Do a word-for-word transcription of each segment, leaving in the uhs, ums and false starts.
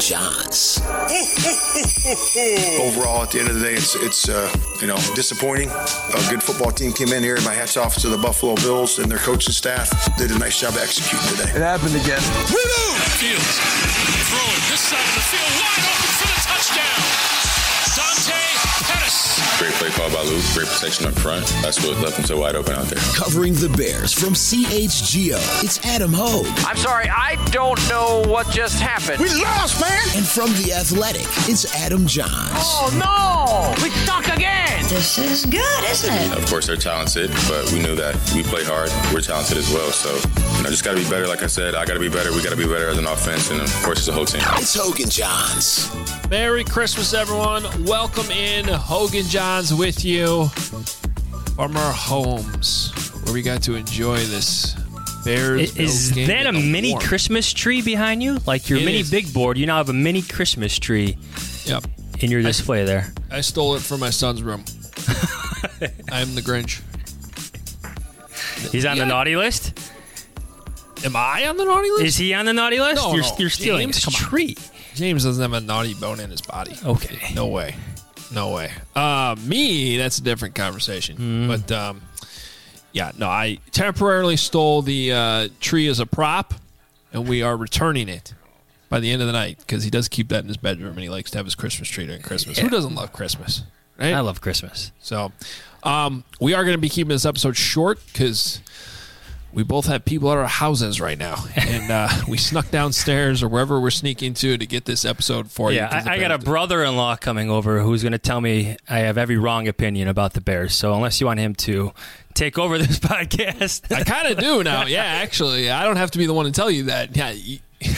Johns. Overall, at the end of the day, it's, it's uh, you know, disappointing. A good football team came in here, and my hat's off to the Buffalo Bills and their coaching staff. Did a nice job executing today. It happened again. Fields throwing this side of the field, wide open for the touchdown. Dante Pettis. Great play call by Luke. Great protection up front. That's what left him so wide open out there. Covering the Bears from C H G O, it's Adam Hogue. I'm sorry, I don't know what just happened. We lost, man! And from The Athletic, it's Adam Johns. Oh, no! We suck again! This is good, isn't it? Of course, they're talented, but we knew that we play hard. We're talented as well. So, you know, just got to be better. Like I said, I got to be better. We got to be better as an offense, and of course, it's a whole team. It's Hogue and Johns. Merry Christmas, everyone. Welcome in. Hogue and Johns with you from our homes, where we got to enjoy this Bears. Is, is that a mini warm. Christmas tree behind you? Like your It mini is. big board, you now have a mini Christmas tree Yep. in your display there. I stole it from my son's room. I am the Grinch. He's on Yeah. the naughty list? Am I on the naughty list? Is he on the naughty list? No, you're, no. you're stealing James, his come on. tree. James doesn't have a naughty bone in his body. Okay. No way. No way. Uh, me, that's a different conversation. Mm. But, um, yeah, no, I temporarily stole the uh, tree as a prop, and we are returning it by the end of the night because he does keep that in his bedroom, and he likes to have his Christmas tree during Christmas. Yeah. Who doesn't love Christmas? Right? I love Christmas. So um, we are going to be keeping this episode short because we both have people at our houses right now, and uh, we snuck downstairs or wherever we're sneaking to to get this episode for you. Yeah, 'cause the I, I got a Bears- brother-in-law coming over who's going to tell me I have every wrong opinion about the Bears. So unless you want him to take over this podcast. I kind of do now. Yeah, actually. I don't have to be the one to tell you that. Yeah. you-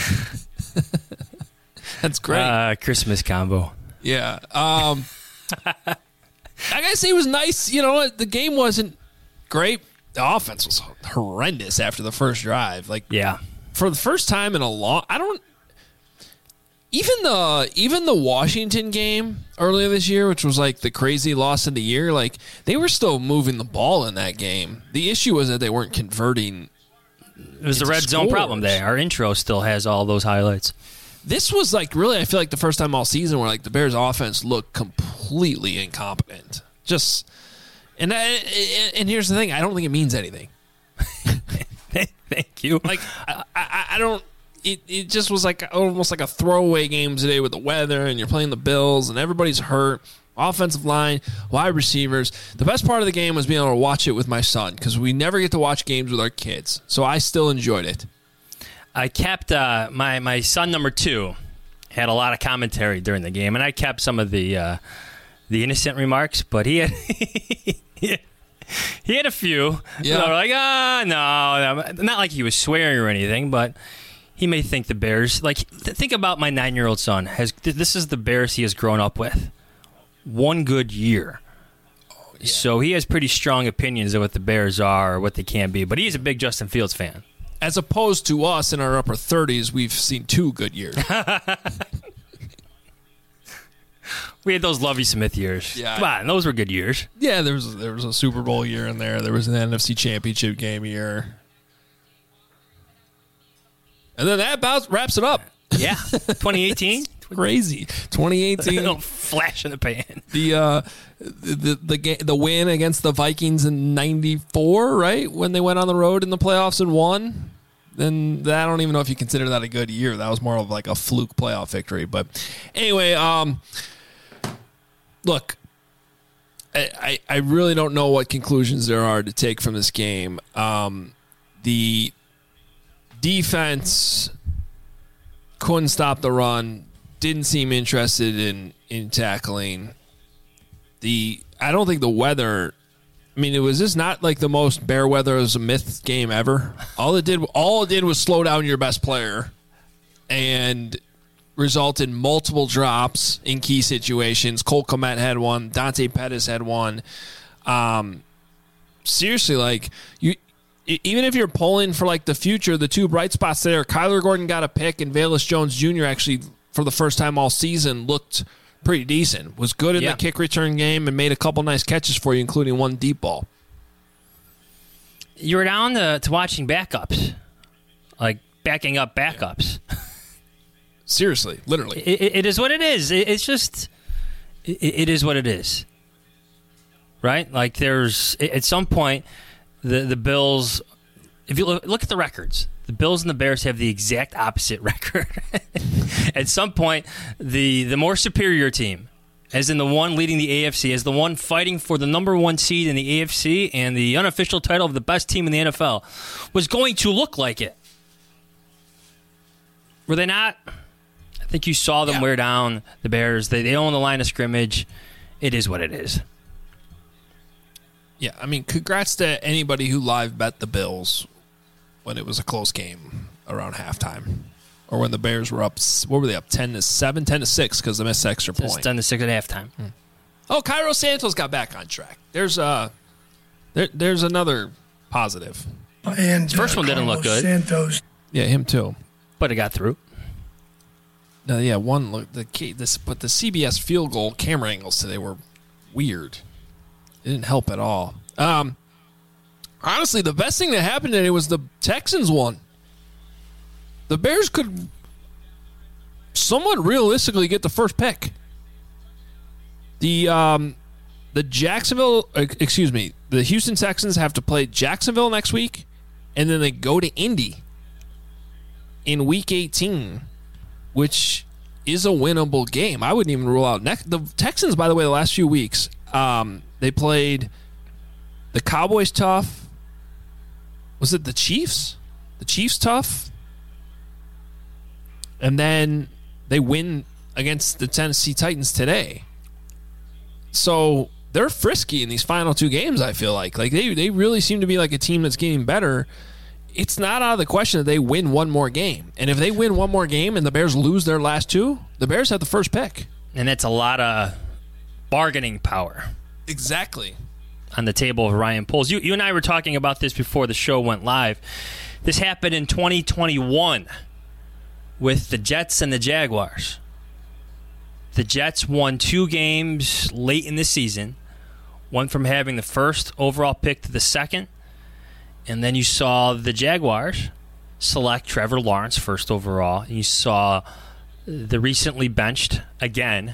That's great. Uh, Christmas combo. Yeah. Um, I gotta say, it was nice. You know, the game wasn't great. The offense was horrendous after the first drive. Like, Yeah. for the first time in a long, I don't. Even the even the Washington game earlier this year, which was like the crazy loss of the year, like they were still moving the ball in that game. The issue was that they weren't converting. It was the It's red zone scores. problem there. Our intro still has all those highlights. This was like really, I feel like the first time all season where like the Bears offense looked completely incompetent. Just and I, and here's the thing, I don't think it means anything. Thank you. Like I, I, I don't. It it just was like almost like a throwaway game today with the weather, and you're playing the Bills, and everybody's hurt. Offensive line, wide receivers. The best part of the game was being able to watch it with my son because we never get to watch games with our kids. So I still enjoyed it. I kept uh, my my son number two had a lot of commentary during the game, and I kept some of the uh, the innocent remarks, but he had he had, he had a few. Yeah. that were like, ah, no, not like he was swearing or anything, but he may think the Bears. Like, th- think about my nine-year-old son. Has this is the Bears he has grown up with? One good year. Oh, yeah. So he has pretty strong opinions of what the Bears are or what they can be, but he's a big Justin Fields fan. As opposed to us in our upper thirties, we've seen two good years. We had those Lovie Smith years. Yeah. Come on, those were good years. Yeah, there was there was a Super Bowl year in there. There was an N F C Championship game year, and then that about wraps it up. Yeah, twenty eighteen. Crazy, twenty eighteen. Little flash in the pan. The uh, the the ga- the win against the Vikings in ninety-four, right? When they went on the road in the playoffs and won. Then that, I don't even know if you consider that a good year. That was more of like a fluke playoff victory. But anyway, um, look, I, I, I really don't know what conclusions there are to take from this game. Um, the defense couldn't stop the run. Didn't seem interested in, in tackling. The I don't think the weather. I mean, it was just not like the most bear weather as a myth game ever. All it did, all it did was slow down your best player, and result in multiple drops in key situations. Cole Kmet had one. Dante Pettis had one. Um, seriously, like you. Even if you're pulling for like the future, the two bright spots there, Kyler Gordon got a pick, and Velus Jones Junior actually, for the first time all season, looked pretty decent. Was good in Yeah. the kick return game and made a couple nice catches for you, including one deep ball. You were down to, to watching backups, like backing up backups. Seriously, literally. It, it is what it is. It, it's just, it, it is what it is. Right? Like there's, at some point, the, the Bills, if you look, look at the records, the Bills and the Bears have the exact opposite record. At some point, the, the more superior team, as in the one leading the A F C, as the one fighting for the number one seed in the A F C and the unofficial title of the best team in the N F L, was going to look like it. Were they not? I think you saw them yeah. wear down the Bears. They, they own the line of scrimmage. It is what it is. Yeah, I mean, congrats to anybody who live bet the Bills when it was a close game around halftime. Or when the Bears were up, what were they up, ten to seven, ten to six because they missed the extra point. ten to six at halftime. Hmm. Oh, Cairo Santos got back on track. There's uh, there, there's another positive. And the first uh, one didn't Carlos look good. Santos. Yeah, him too. But it got through. No, yeah, one look the this, but the C B S field goal camera angles today were weird. It didn't help at all. Um, honestly, the best thing that happened today was the Texans won. The Bears could somewhat realistically get the first pick. The um, the Jacksonville, excuse me, the Houston Texans have to play Jacksonville next week, and then they go to Indy in Week eighteen, which is a winnable game. I wouldn't even rule out next. The Texans, by the way, the last few weeks, um, they played the Cowboys tough. Was it the Chiefs? The Chiefs tough. And then they win against the Tennessee Titans today. So they're frisky in these final two games, I feel like. Like they, they really seem to be like a team that's getting better. It's not out of the question that they win one more game. And if they win one more game and the Bears lose their last two, the Bears have the first pick. And that's a lot of bargaining power. Exactly. On the table of Ryan Poles. You, you and I were talking about this before the show went live. This happened in twenty twenty-one. With the Jets and the Jaguars. The Jets won two games late in the season. One from having the first overall pick to the second. And then you saw the Jaguars select Trevor Lawrence first overall. And you saw the recently benched, again,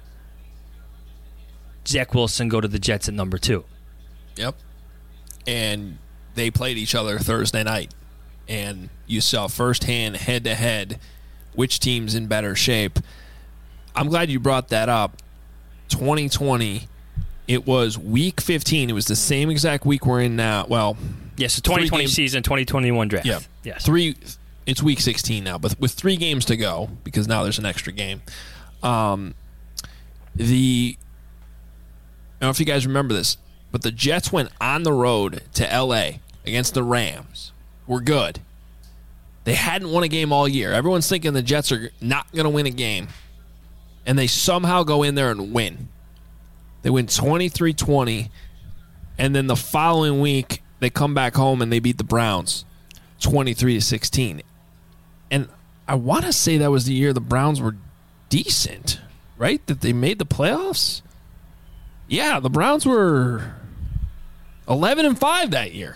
Zach Wilson go to the Jets at number two. Yep. And they played each other Thursday night. And you saw firsthand, head-to-head, which team's in better shape. I'm glad you brought that up. twenty twenty, it was week fifteen. It was the same exact week we're in now. Well, yes, the twenty twenty season, twenty twenty-one draft. Yeah, yes. Three. It's week sixteen now, but with three games to go, because now there's an extra game. Um, the I don't know if you guys remember this, but the Jets went on the road to L A against the Rams. We're good. They hadn't won a game all year. Everyone's thinking the Jets are not going to win a game. And they somehow go in there and win. They win twenty-three twenty. And then the following week, they come back home and they beat the Browns twenty-three to sixteen. And I want to say that was the year the Browns were decent, right? That they made the playoffs? Yeah, the Browns were eleven and five that year.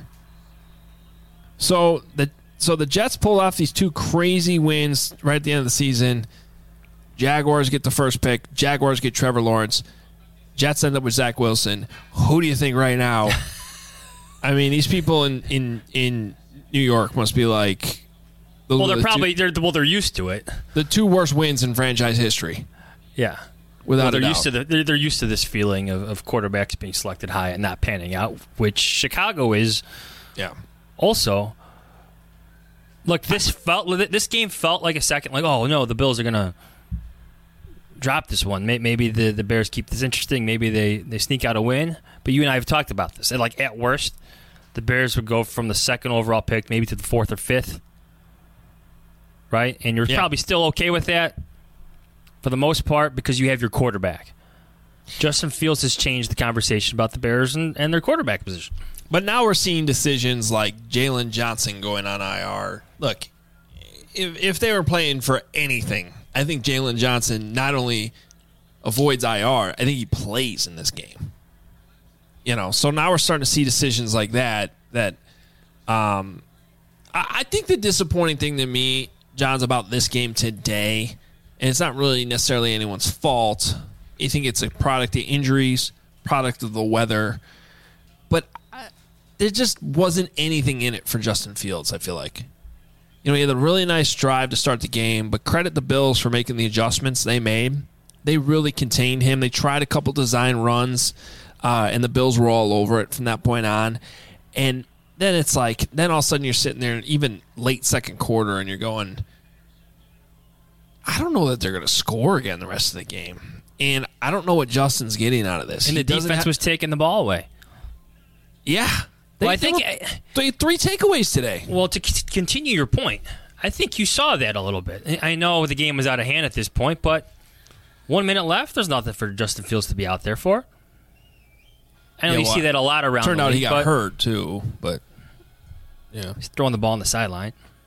So the so the Jets pulled off these two crazy wins right at the end of the season. Jaguars get the first pick. Jaguars get Trevor Lawrence. Jets end up with Zach Wilson. Who do you think right now? I mean, these people in, in, in New York must be like... The, well, they're the probably... Two, they're well, they're used to it. The two worst wins in franchise history. Yeah. Without well, they're a doubt. used to the, they're, they're used to this feeling of, of quarterbacks being selected high and not panning out, which Chicago is yeah. also... Look, this felt this game felt like a second, like, oh, no, the Bills are going to drop this one. Maybe the, the Bears keep this interesting. Maybe they, they sneak out a win. But you and I have talked about this. And like, at worst, the Bears would go from the second overall pick maybe to the fourth or fifth. Right? And you're yeah. probably still okay with that for the most part because you have your quarterback. Justin Fields has changed the conversation about the Bears and, and their quarterback position. But now we're seeing decisions like Jalen Johnson going on I R. Look, if, if they were playing for anything, I think Jalen Johnson not only avoids I R, I think he plays in this game. You know, so now we're starting to see decisions like that. That um, I, I think the disappointing thing to me, John's, about this game today and it's not really necessarily anyone's fault. You think it's a product of injuries, product of the weather, but I, there just wasn't anything in it for Justin Fields, I feel like. You know, he had a really nice drive to start the game, but credit the Bills for making the adjustments they made. They really contained him. They tried a couple design runs, uh, and the Bills were all over it from that point on. And then it's like, then all of a sudden you're sitting there, even late second quarter, and you're going, I don't know that they're going to score again the rest of the game. And I don't know what Justin's getting out of this. And he the defense ha- was taking the ball away. Yeah. They, well, I think they three takeaways today. Well, to c- continue your point, I think you saw that a little bit. I know the game was out of hand at this point, but one minute left, there's nothing for Justin Fields to be out there for. I know yeah, you well, see that a lot around turned the out league, he got hurt, too, but yeah. He's throwing the ball on the sideline.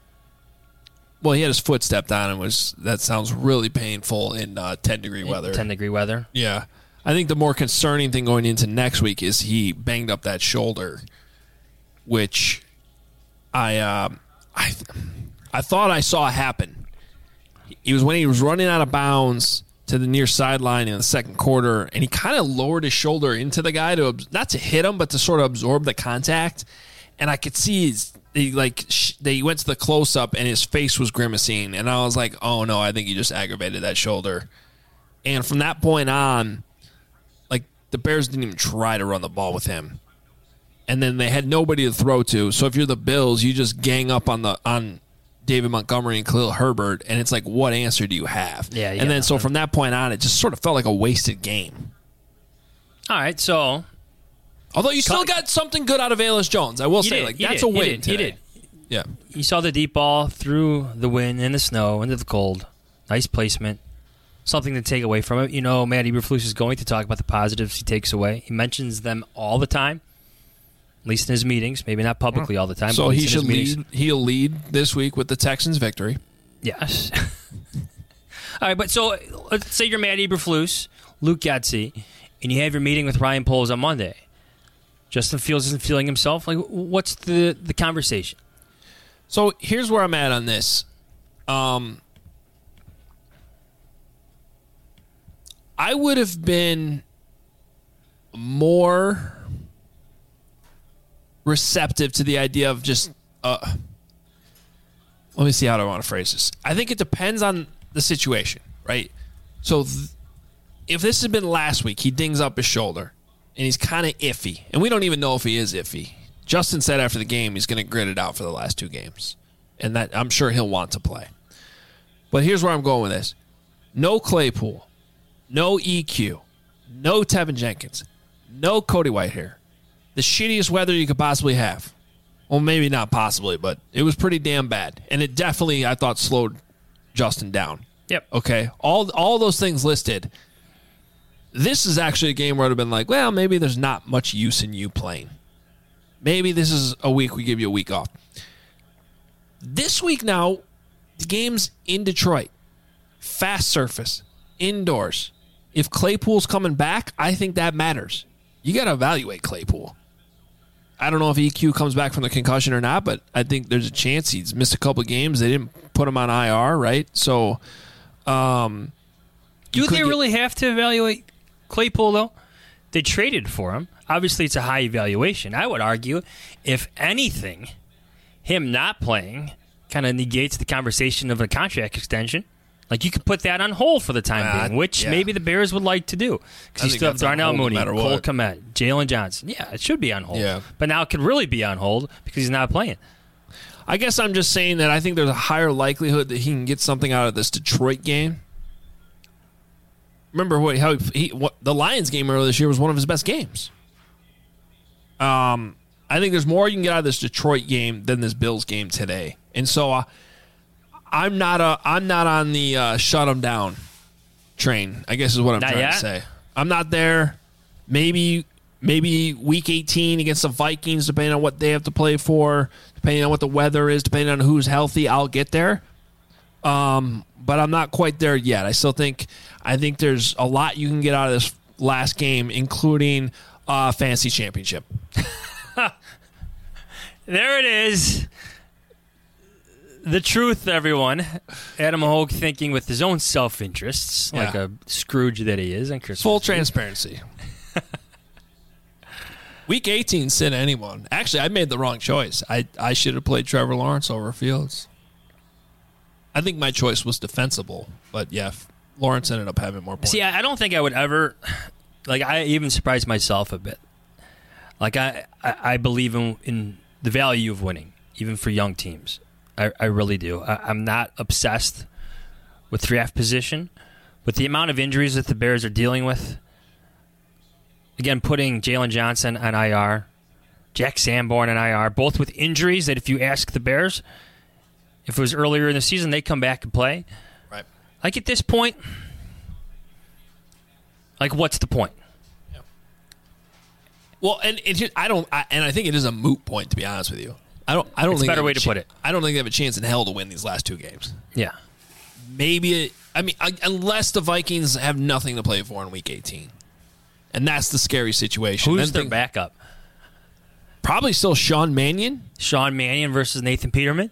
Well, he had his foot stepped on and was that sounds really painful in uh, ten-degree weather. ten-degree weather? Yeah. I think the more concerning thing going into next week is he banged up that shoulder, which I uh, I I thought I saw happen. It was when he was running out of bounds to the near sideline in the second quarter, and he kind of lowered his shoulder into the guy to not to hit him, but to sort of absorb the contact. And I could see his, he like sh- they went to the close up, and his face was grimacing, and I was like, "Oh no, I think he just aggravated that shoulder." And from that point on, like the Bears didn't even try to run the ball with him, and then they had nobody to throw to. So if you're the Bills, you just gang up on the on David Montgomery and Khalil Herbert, and it's like, what answer do you have? Yeah, yeah. And then so from that point on, it just sort of felt like a wasted game. All right, so. Although you still got something good out of Velus Jones. I will say, did, like that's did, a win he did, today. He did. Yeah. You saw the deep ball through the wind and the snow into the cold. Nice placement. Something to take away from it. You know, Matt Eberflus is going to talk about the positives he takes away. He mentions them all the time, at least in his meetings. Maybe not publicly all the time. So but at he least in should his lead. He'll lead this week with the Texans' victory. Yes. All right, but so let's say you're Matt Eberflus, Luke Getsy, and you have your meeting with Ryan Poles on Monday. Justin Fields isn't feeling himself. Like, what's the, the conversation? So here's where I'm at on this. Um, I would have been more receptive to the idea of just. Uh, let me see how I want to phrase this. I think it depends on the situation, right? So th- if this had been last week, he dings up his shoulder. And he's kind of iffy. And we don't even know if he is iffy. Justin said after the game he's going to grit it out for the last two games. And that I'm sure he'll want to play. But here's where I'm going with this. No Claypool. No E Q. No Tevin Jenkins. No Cody Whitehair. The shittiest weather you could possibly have. Well, maybe not possibly, but it was pretty damn bad. And it definitely, I thought, slowed Justin down. Yep. Okay? All, all those things listed. This is actually a game where I'd have been like, well, maybe there's not much use in you playing. Maybe this is a week we give you a week off. This week now, the game's in Detroit. Fast surface. Indoors. If Claypool's coming back, I think that matters. You got to evaluate Claypool. I don't know if E Q comes back from the concussion or not, but I think there's a chance he's missed a couple games. They didn't put him on I R, right? So, um... Do they really get- have to evaluate Claypool, though? They traded for him. Obviously, it's a high evaluation. I would argue, if anything, him not playing kind of negates the conversation of a contract extension. Like, you could put that on hold for the time uh, being, which yeah. maybe the Bears would like to do. Because you still have Darnell Mooney, Cole Kmet, Jalen Johnson. Yeah, it should be on hold. Yeah. But now it could really be on hold because he's not playing. I guess I'm just saying that I think there's a higher likelihood that he can get something out of this Detroit game. Remember what how he what, the Lions game earlier this year was one of his best games. Um, I think there's more you can get out of this Detroit game than this Bills game today, and so uh, I'm not a I'm not on the uh, shut them down train. I guess is what I'm not trying yet? to say. I'm not there. Maybe maybe week eighteen against the Vikings, depending on what they have to play for, depending on what the weather is, depending on who's healthy, I'll get there. Um, but I'm not quite there yet. I still think I think there's a lot you can get out of this last game, including uh, fantasy championship. There it is. The truth, everyone. Adam Hogue thinking with his own self-interests, Yeah. like a Scrooge that he is on Christmas. Full Eve. transparency. Week eighteen, sit anyone. Actually, I made the wrong choice. I, I should have played Trevor Lawrence over Fields. I think my choice was defensible, but yeah, Lawrence ended up having more points. See, I I don't think I would ever, like, I even surprised myself a bit. Like, I, I, I believe in, in the value of winning, even for young teams. I, I really do. I, I'm not obsessed with draft position, but the amount of injuries that the Bears are dealing with, again, putting Jalen Johnson on I R, Jack Sanborn on I R, both with injuries that if you ask the Bears, if it was earlier in the season, they come back and play. Right. Like, at this point, like, what's the point? Yeah. Well, and it just, I don't, I, and I think it is a moot point, to be honest with you. I don't. I don't It's a think better they have way a to cha- put it. I don't think they have a chance in hell to win these last two games. Yeah. Maybe. It, I mean, I, unless the Vikings have nothing to play for in Week eighteen, and that's the scary situation. Who's Then their think- backup? Probably still Sean Mannion. Sean Mannion versus Nathan Peterman?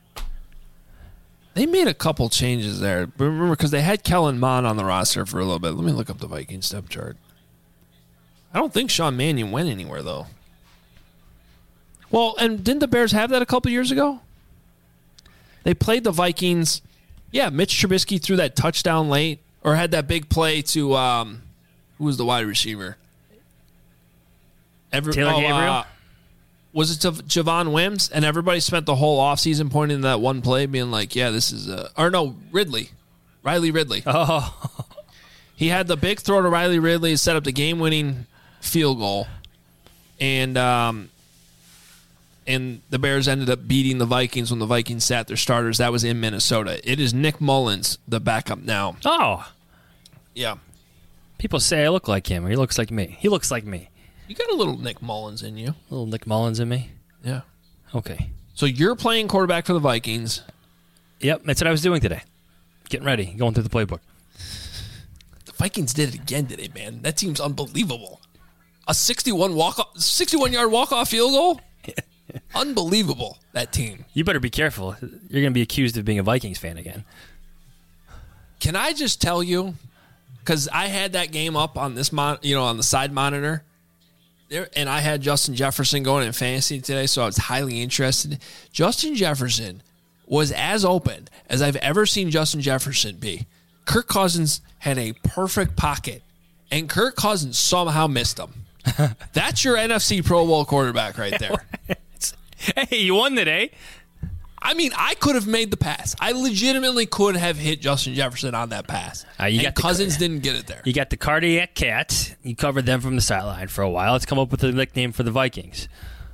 They made a couple changes there. Remember, because they had Kellen Mond on the roster for a little bit. Let me look up the Vikings depth chart. I don't think Sean Mannion went anywhere, though. Well, and didn't the Bears have that a couple years ago? They played the Vikings. Yeah, Mitch Trubisky threw that touchdown late, or had that big play to, um, who was the wide receiver? Every, Taylor oh, Gabriel? Uh, was it to Javon Wims? And everybody spent the whole offseason pointing to that one play, being like, yeah, this is a... Or no, Ridley. Riley Ridley. Oh. He had the big throw to Riley Ridley to set up the game-winning field goal. And um, and the Bears ended up beating the Vikings when the Vikings sat their starters. That was in Minnesota. It is Nick Mullins, the backup now. Oh. Yeah. People say I look like him, or he looks like me. He looks like me. You got a little Nick Mullins in you. Little Nick Mullins in me? Yeah. Okay. So you're playing quarterback for the Vikings. Yep, that's what I was doing today. Getting ready, going through the playbook. The Vikings did it again today, man. That team's unbelievable. A sixty-one walk, sixty-one yard walk-off field goal? Unbelievable, that team. You better be careful. You're going to be accused of being a Vikings fan again. Can I just tell you, because I had that game up on this mon- you know, on the side monitor, there, and I had Justin Jefferson going in fantasy today, so I was highly interested. Justin Jefferson was as open as I've ever seen Justin Jefferson be. Kirk Cousins had a perfect pocket, and Kirk Cousins somehow missed him. That's your N F C Pro Bowl quarterback right there. Hey, you won today. I mean, I could have made the pass. I legitimately could have hit Justin Jefferson on that pass. Uh, you and got the- Cousins didn't get it there. You got the cardiac cat. You covered them from the sideline for a while. Let's come up with a nickname for the Vikings.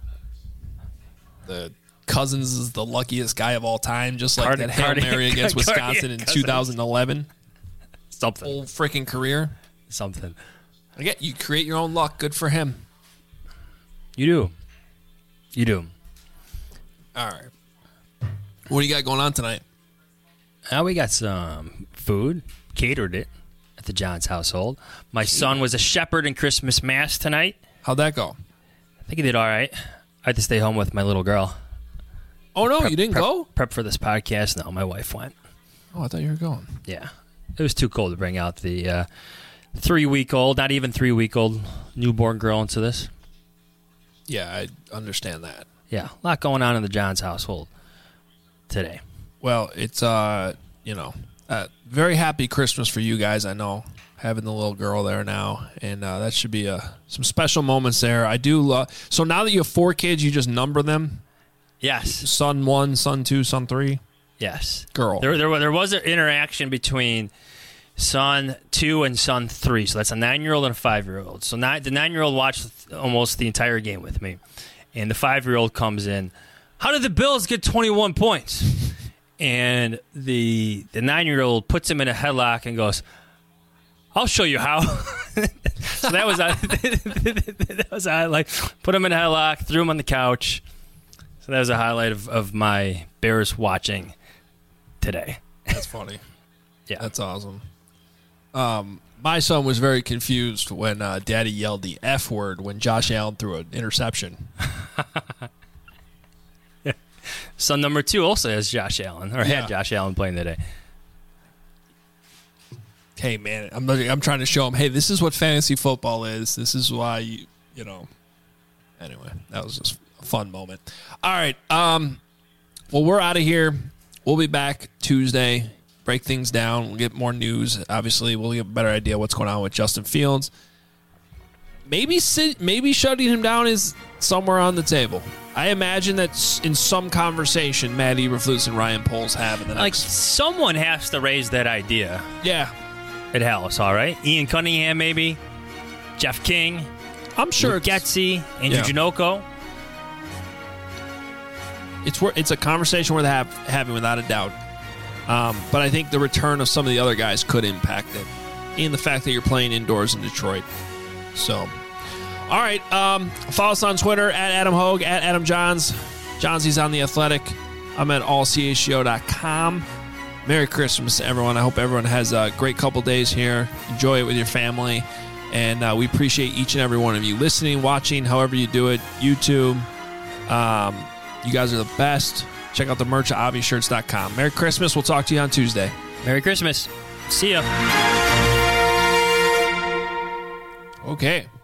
The Cousins is the luckiest guy of all time, just like Cardi- that Hail Cardi- Mary against Cardiac Wisconsin in Cousins. two thousand eleven. Something. Whole freaking career. Something. Again, you create your own luck. Good for him. You do. You do. All right. What do you got going on tonight? Uh, we got some food. Catered it at the Johns household. My son was a shepherd in Christmas Mass tonight. How'd that go? I think he did all right. I had to stay home with my little girl. Oh, no, Prep- you didn't prep, go? Prep for this podcast. No, my wife went. Oh, I thought you were going. Yeah. It was too cold to bring out the uh, three-week-old, not even three-week-old newborn girl into this. Yeah, I understand that. Yeah, a lot going on in the Johns household today. Well, it's, uh, you know, uh, very happy Christmas for you guys, I know, having the little girl there now. And uh, that should be uh, some special moments there. I do love. So now that you have four kids, you just number them? Yes. Son one, son two, son three? Yes. Girl. There, there, there was an interaction between son two and son three. So that's a nine-year-old and a five-year-old. So nine, the nine-year-old watched almost the entire game with me. And the five-year-old comes in, how did the Bills get twenty-one points? And the the nine-year-old puts him in a headlock and goes, I'll show you how. So that was a, that was a highlight. Put him in a headlock, threw him on the couch. So that was a highlight of, of my Bears watching today. That's funny. Yeah. That's awesome. Um, my son was very confused when uh, Daddy yelled the F word when Josh Allen threw an interception. son number two also has Josh Allen, or Yeah. had Josh Allen playing today. Hey, man, I'm I'm trying to show him, hey, this is what fantasy football is. This is why, you, you know. Anyway, that was just a fun moment. All right. Um, well, we're out of here. We'll be back Tuesday. Break things down. We'll get more news. Obviously, we'll get a better idea what's going on with Justin Fields. Maybe sit, maybe shutting him down is somewhere on the table. I imagine that in some conversation, Matt Eberflus and Ryan Poles have in the Like, next. someone has to raise that idea Yeah, at Hallis, all right? Ian Cunningham, maybe. Jeff King. I'm sure Luke it's, Getsy. Andrew Yeah. Janocko. it's wor- it's a conversation worth have, having without a doubt. Um, but I think the return of some of the other guys could impact it, and the fact that you're playing indoors in Detroit. So, all right. Um, follow us on Twitter at Adam Hogue, at Adam Johns. Johnsy's on The Athletic. I'm at all c h g o dot com. Merry Christmas, everyone. I hope everyone has a great couple days here. Enjoy it with your family. And uh, we appreciate each and every one of you listening, watching, however you do it. YouTube. Um, you guys are the best. Check out the merch at obvious shirts dot com. Merry Christmas. We'll talk to you on Tuesday. Merry Christmas. See ya. Okay.